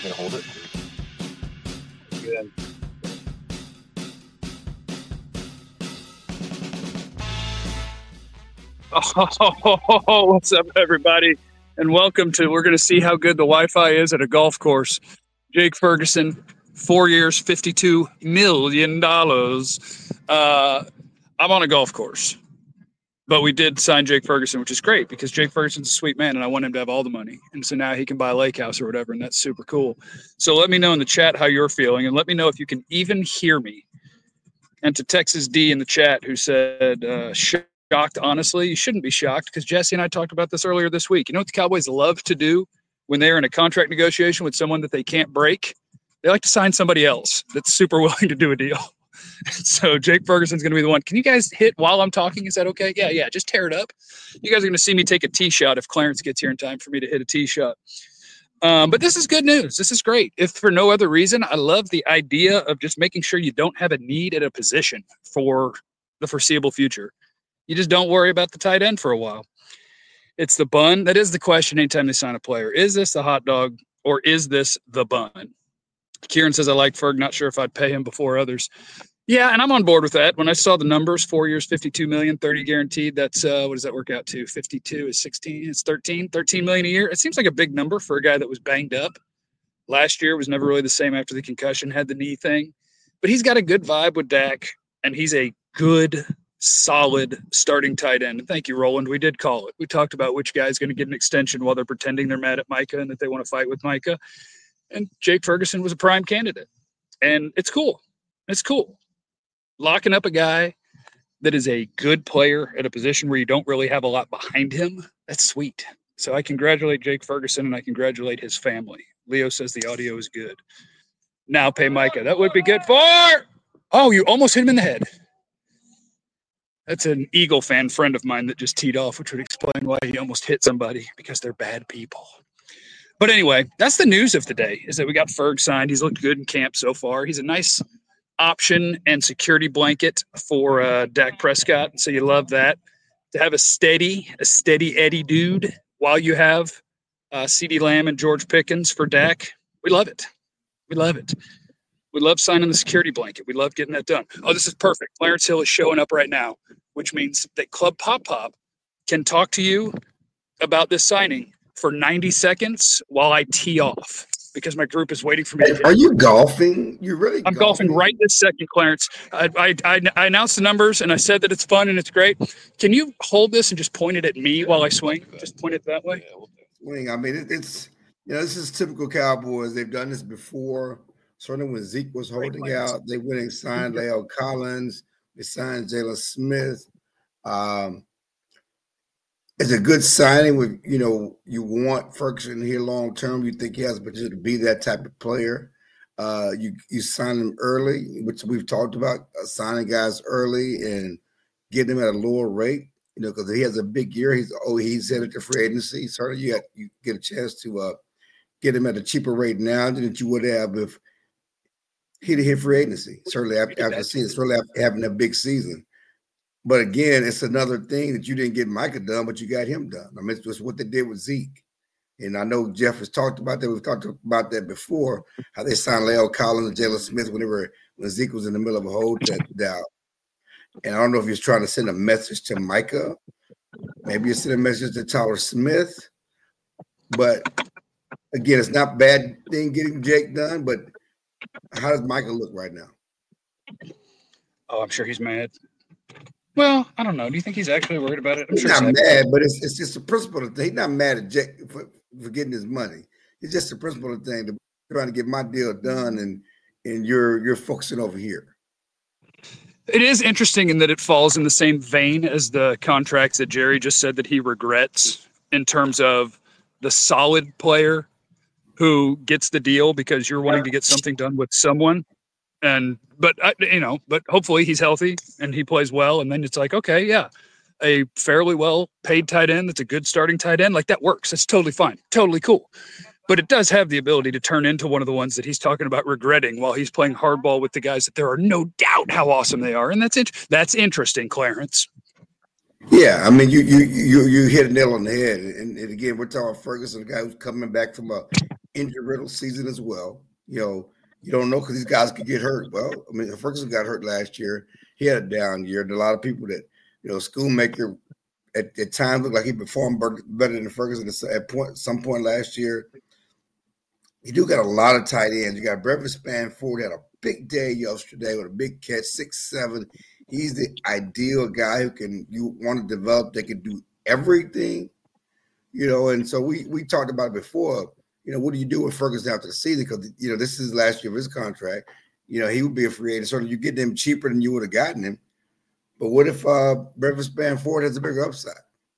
Gonna hold it. Good. Oh, what's up, everybody? And welcome to, we're going to see how good the Wi-Fi is at a golf course. Jake Ferguson, 4 years, $52 million. I'm on a golf course. But we did sign Jake Ferguson, which is great because Jake Ferguson's a sweet man and I want him to have all the money. And so now he can buy a lake house or whatever, and that's super cool. So let me know in the chat how you're feeling and let me know if you can even hear me. And to Texas D in the chat who said, shocked, honestly, you shouldn't be shocked because Jesse and I talked about this earlier this week. You know what the Cowboys love to do when they're in a contract negotiation with someone that they can't break? They like to sign somebody else that's super willing to do a deal. So Jake Ferguson's going to be the one. Can you guys hit while I'm talking? Is that okay? Yeah. Just tear it up. You guys are going to see me take a tee shot if Clarence gets here in time for me to hit a tee shot. But this is good news. This is great. If for no other reason, I love the idea of just making sure you don't have a need at a position for the foreseeable future. You just don't worry about the tight end for a while. It's the bun. That is the question anytime they sign a player. Is this the hot dog or is this the bun? Kieran says, I like Ferg. Not sure if I'd pay him before others. Yeah, and I'm on board with that. When I saw the numbers, 4 years, 52 million, 30 guaranteed, that's what does that work out to? 52 is 16, it's 13 million a year. It seems like a big number for a guy that was banged up. Last year was never really the same after the concussion, had the knee thing. But he's got a good vibe with Dak, and he's a good, solid starting tight end. And thank you, Roland. We did call it. We talked about which guy's going to get an extension while they're pretending they're mad at Micah and that they want to fight with Micah. And Jake Ferguson was a prime candidate. And it's cool. It's cool. Locking up a guy that is a good player at a position where you don't really have a lot behind him, that's sweet. So I congratulate Jake Ferguson and I congratulate his family. Leo says the audio is good. Now pay Micah. That would be good for... Oh, you almost hit him in the head. That's an Eagle fan friend of mine that just teed off, which would explain why he almost hit somebody, because they're bad people. But anyway, that's the news of the day, is that we got Ferg signed. He's looked good in camp so far. He's a nice option and security blanket for Dak Prescott. So you love that. To have a steady Eddie dude while you have CeeDee Lamb and George Pickens for Dak. We love it. We love it. We love signing the security blanket. We love getting that done. Oh, this is perfect. Clarence Hill is showing up right now, which means that Club Pop Pop can talk to you about this signing for 90 seconds while I tee off, because my group is waiting for me. Are you golfing? You're really I'm golfing right this second, Clarence. I announced the numbers, and I said that it's fun and it's great. Can you hold this and just point it at me while I swing? Just point it that way. Swing. I mean, it's this is typical Cowboys. They've done this before. Certainly when Zeke was holding out, they went and signed La'el Collins. They signed Jalen Smith. It's a good signing with, you want Ferguson here long term. You think he has the potential to be that type of player. You sign him early, which we've talked about, signing guys early and getting them at a lower rate, because he has a big year. He's headed to free agency. Certainly you get a chance to get him at a cheaper rate now than you would have if he'd hit free agency. Certainly after season, certainly after having a big season. But again, it's another thing that you didn't get Micah done, but you got him done. I mean, it's just what they did with Zeke. And I know Jeff has talked about that. We've talked about that before, how they signed La'el Collins and Jalen Smith when Zeke was in the middle of a holdout. And I don't know if he was trying to send a message to Micah. Maybe he sent a message to Tyler Smith. But again, it's not a bad thing getting Jake done, but how does Micah look right now? Oh, I'm sure he's mad. Well, I don't know. Do you think he's actually worried about it? He's not mad, but it's just a principle thing. He's not mad at Jake for getting his money. It's just a principle thing, to trying to get my deal done, and you're focusing over here. It is interesting in that it falls in the same vein as the contracts that Jerry just said that he regrets, in terms of the solid player who gets the deal because you're wanting to get something done with someone. But hopefully he's healthy and he plays well. And then it's like, okay, yeah, a fairly well paid tight end that's a good starting tight end, like that works. That's totally fine. Totally cool. But it does have the ability to turn into one of the ones that he's talking about regretting while he's playing hardball with the guys that there are no doubt how awesome they are. And that's interesting, Clarence. Yeah, I mean, you hit a nail on the head. And again, we're talking Ferguson, a guy who's coming back from a injury-riddled season as well. You don't know because these guys could get hurt. Well, I mean, Ferguson got hurt last year. He had a down year. And a lot of people that, Schoonmaker at times looked like he performed better than Ferguson at some point last year. You do got a lot of tight ends. You got Brevin Spanford had a big day yesterday with a big catch, 6'7". He's the ideal guy you want to develop. They can do everything, and so we talked about it before. What do you do with Ferguson after the season? Because, this is last year of his contract. He would be a free agent. So you get him cheaper than you would have gotten him. But what if Brevin Spanford has a bigger upside?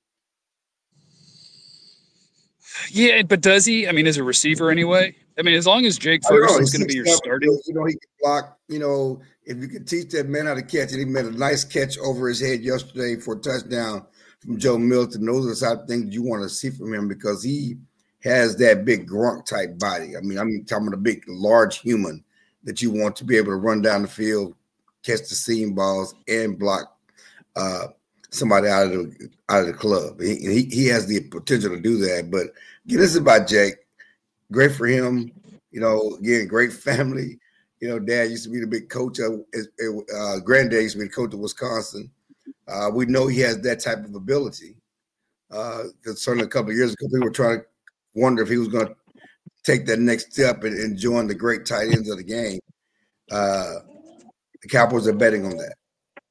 Yeah, but does he? I mean, as a receiver anyway? I mean, as long as Jake Ferguson's going to be your starting. He can block. If you could teach that man how to catch, and he made a nice catch over his head yesterday for a touchdown from Joe Milton. Those are the type of things you want to see from him because he has that big grunt type body. I mean, I'm talking about a big, large human that you want to be able to run down the field, catch the seam balls, and block somebody out of the club. He has the potential to do that. But again, this is about Jake. Great for him. Again, great family. Dad used to be the big coach granddad used to be the coach of Wisconsin. We know he has that type of ability. Because certainly a couple of years ago, people were trying to wonder if he was going to take that next step and join the great tight ends of the game. The Cowboys are betting on that.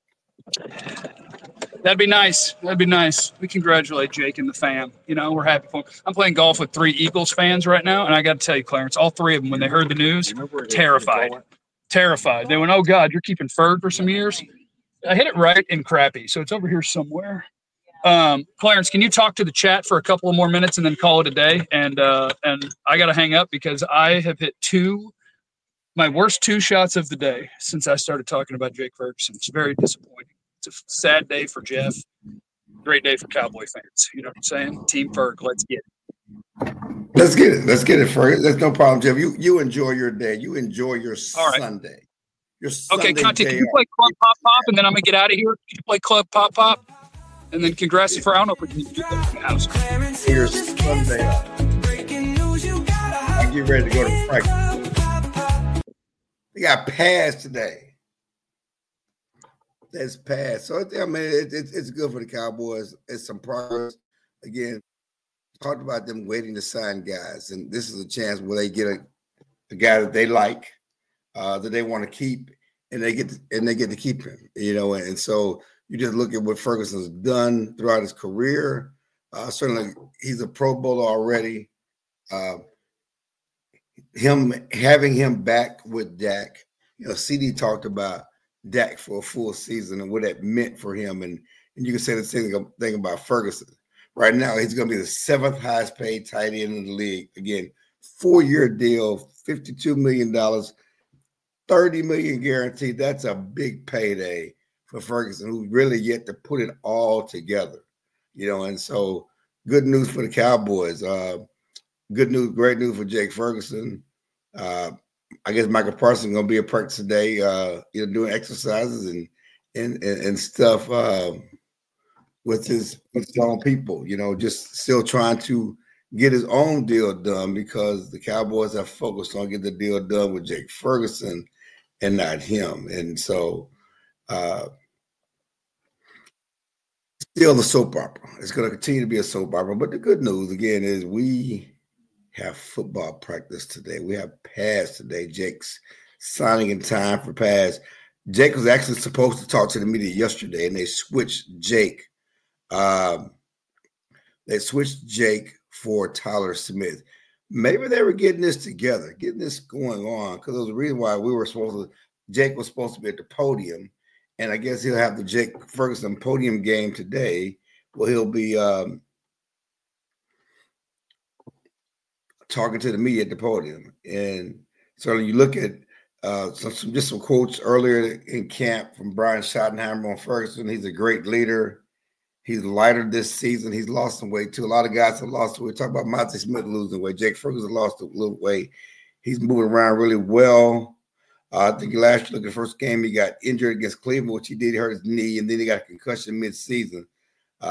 That'd be nice. We congratulate Jake and the fam. We're happy for him. I'm playing golf with 3 Eagles fans right now, and I got to tell you, Clarence, all 3 of them, when they heard the news, terrified. They went, "Oh, God, you're keeping Ferg for some years?" I hit it right in crappy, so it's over here somewhere. Clarence, can you talk to the chat for a couple of more minutes and then call it a day? And I got to hang up because I have hit my worst 2 shots of the day since I started talking about Jake Ferguson. It's very disappointing. It's a sad day for Jeff. Great day for Cowboy fans. You know what I'm saying? Team Ferg, let's get it. Let's get it, Ferg. That's no problem, Jeff. You enjoy your day. You enjoy your Sunday. Your Sunday. Okay, Conte, can you play Club Pop Pop and then I'm going to get out of here? Can you play Club Pop Pop? And then congrats for, I don't know if we can do that in the house. Here's Sunday. I get ready to go to practice. They got pads today. That's passed. So, I mean, it's good for the Cowboys. It's some progress. Again, talked about them waiting to sign guys. And this is a chance where they get a guy that they like, that they want to keep, and they get to keep him, And so you just look at what Ferguson's done throughout his career. Certainly, he's a Pro Bowler already. Having him back with Dak, CD talked about Dak for a full season and what that meant for him. And you can say the same thing about Ferguson. Right now, he's going to be the 7th highest paid tight end in the league. Again, 4-year deal, $52 million, $30 million guaranteed. That's a big payday for Ferguson, who's really yet to put it all together. And so good news for the Cowboys. Good news, great news for Jake Ferguson. I guess Michael Parsons going to be at practice today, doing exercises and stuff with his own people, just still trying to get his own deal done because the Cowboys have focused on getting the deal done with Jake Ferguson and not him. And so still the soap opera. It's going to continue to be a soap opera. But the good news, again, is we have football practice today. We have pads today. Jake's signing in time for pads. Jake was actually supposed to talk to the media yesterday, and they switched Jake. They switched Jake for Tyler Smith. Maybe they were getting this together, getting this going on, because there was a reason why Jake was supposed to be at the podium, and I guess he'll have the Jake Ferguson podium game today, where he'll be talking to the media at the podium. And so you look at some quotes earlier in camp from Brian Schottenheimer on Ferguson. He's a great leader. He's lighter this season. He's lost some weight too. A lot of guys have lost weight. Talk about Monty Smith losing weight. Jake Ferguson lost a little weight. He's moving around really well. I think last year, the first game, he got injured against Cleveland, which he did. He hurt his knee, and then he got a concussion mid-season.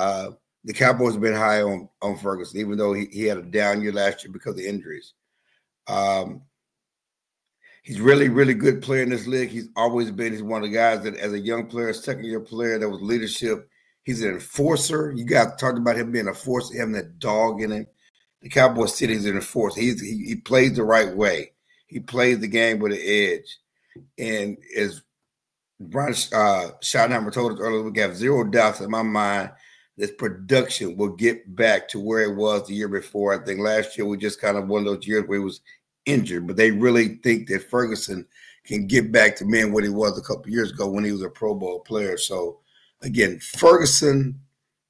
The Cowboys have been high on Ferguson, even though he had a down year last year because of injuries. He's really, really good player in this league. He's always been. He's one of the guys that, as a young player, second-year player, that was leadership. He's an enforcer. You guys talked about him being a force, having that dog in him. The Cowboys City is an enforcer. He plays the right way. He plays the game with an edge. And as Brian Schottenheimer told us earlier, we have zero doubts in my mind this production will get back to where it was the year before. I think last year was just kind of one of those years where he was injured, but they really think that Ferguson can get back to being what he was a couple of years ago when he was a Pro Bowl player. So, again, Ferguson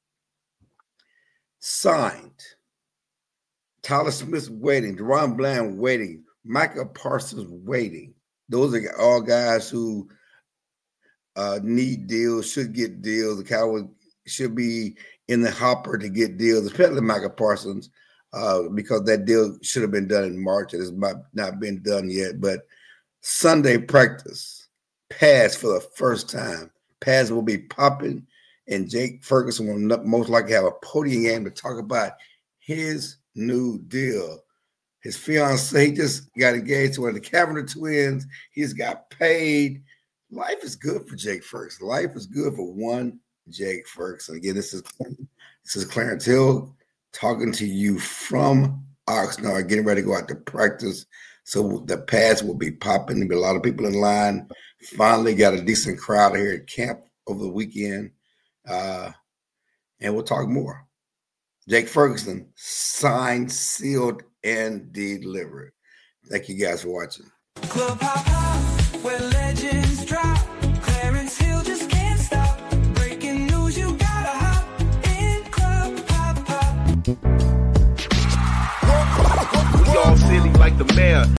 signed. Tyler Smith waiting. DaRon Bland waiting. Micah Parsons waiting. Those are all guys who need deals, should get deals. The Cowboys should be in the hopper to get deals, especially Micah Parsons, because that deal should have been done in March. It has not been done yet. But Sunday practice, pass for the first time. Pass will be popping, and Jake Ferguson will most likely have a podium game to talk about his new deal. His fiancée just got engaged to one of the Kavanagh twins. He's got paid. Life is good for Jake Ferguson. Life is good for one Jake Ferguson. Again, this is Clarence Hill talking to you from Oxnard, getting ready to go out to practice. So the pads will be popping. There'll be a lot of people in line. Finally got a decent crowd here at camp over the weekend. And we'll talk more. Jake Ferguson signed, sealed, and delivered. Thank you guys for watching. Club hop hop, where legends drop. Clarence Hill just can't stop. Breaking news, you gotta hop in Club hop hop. We all silly like the mayor.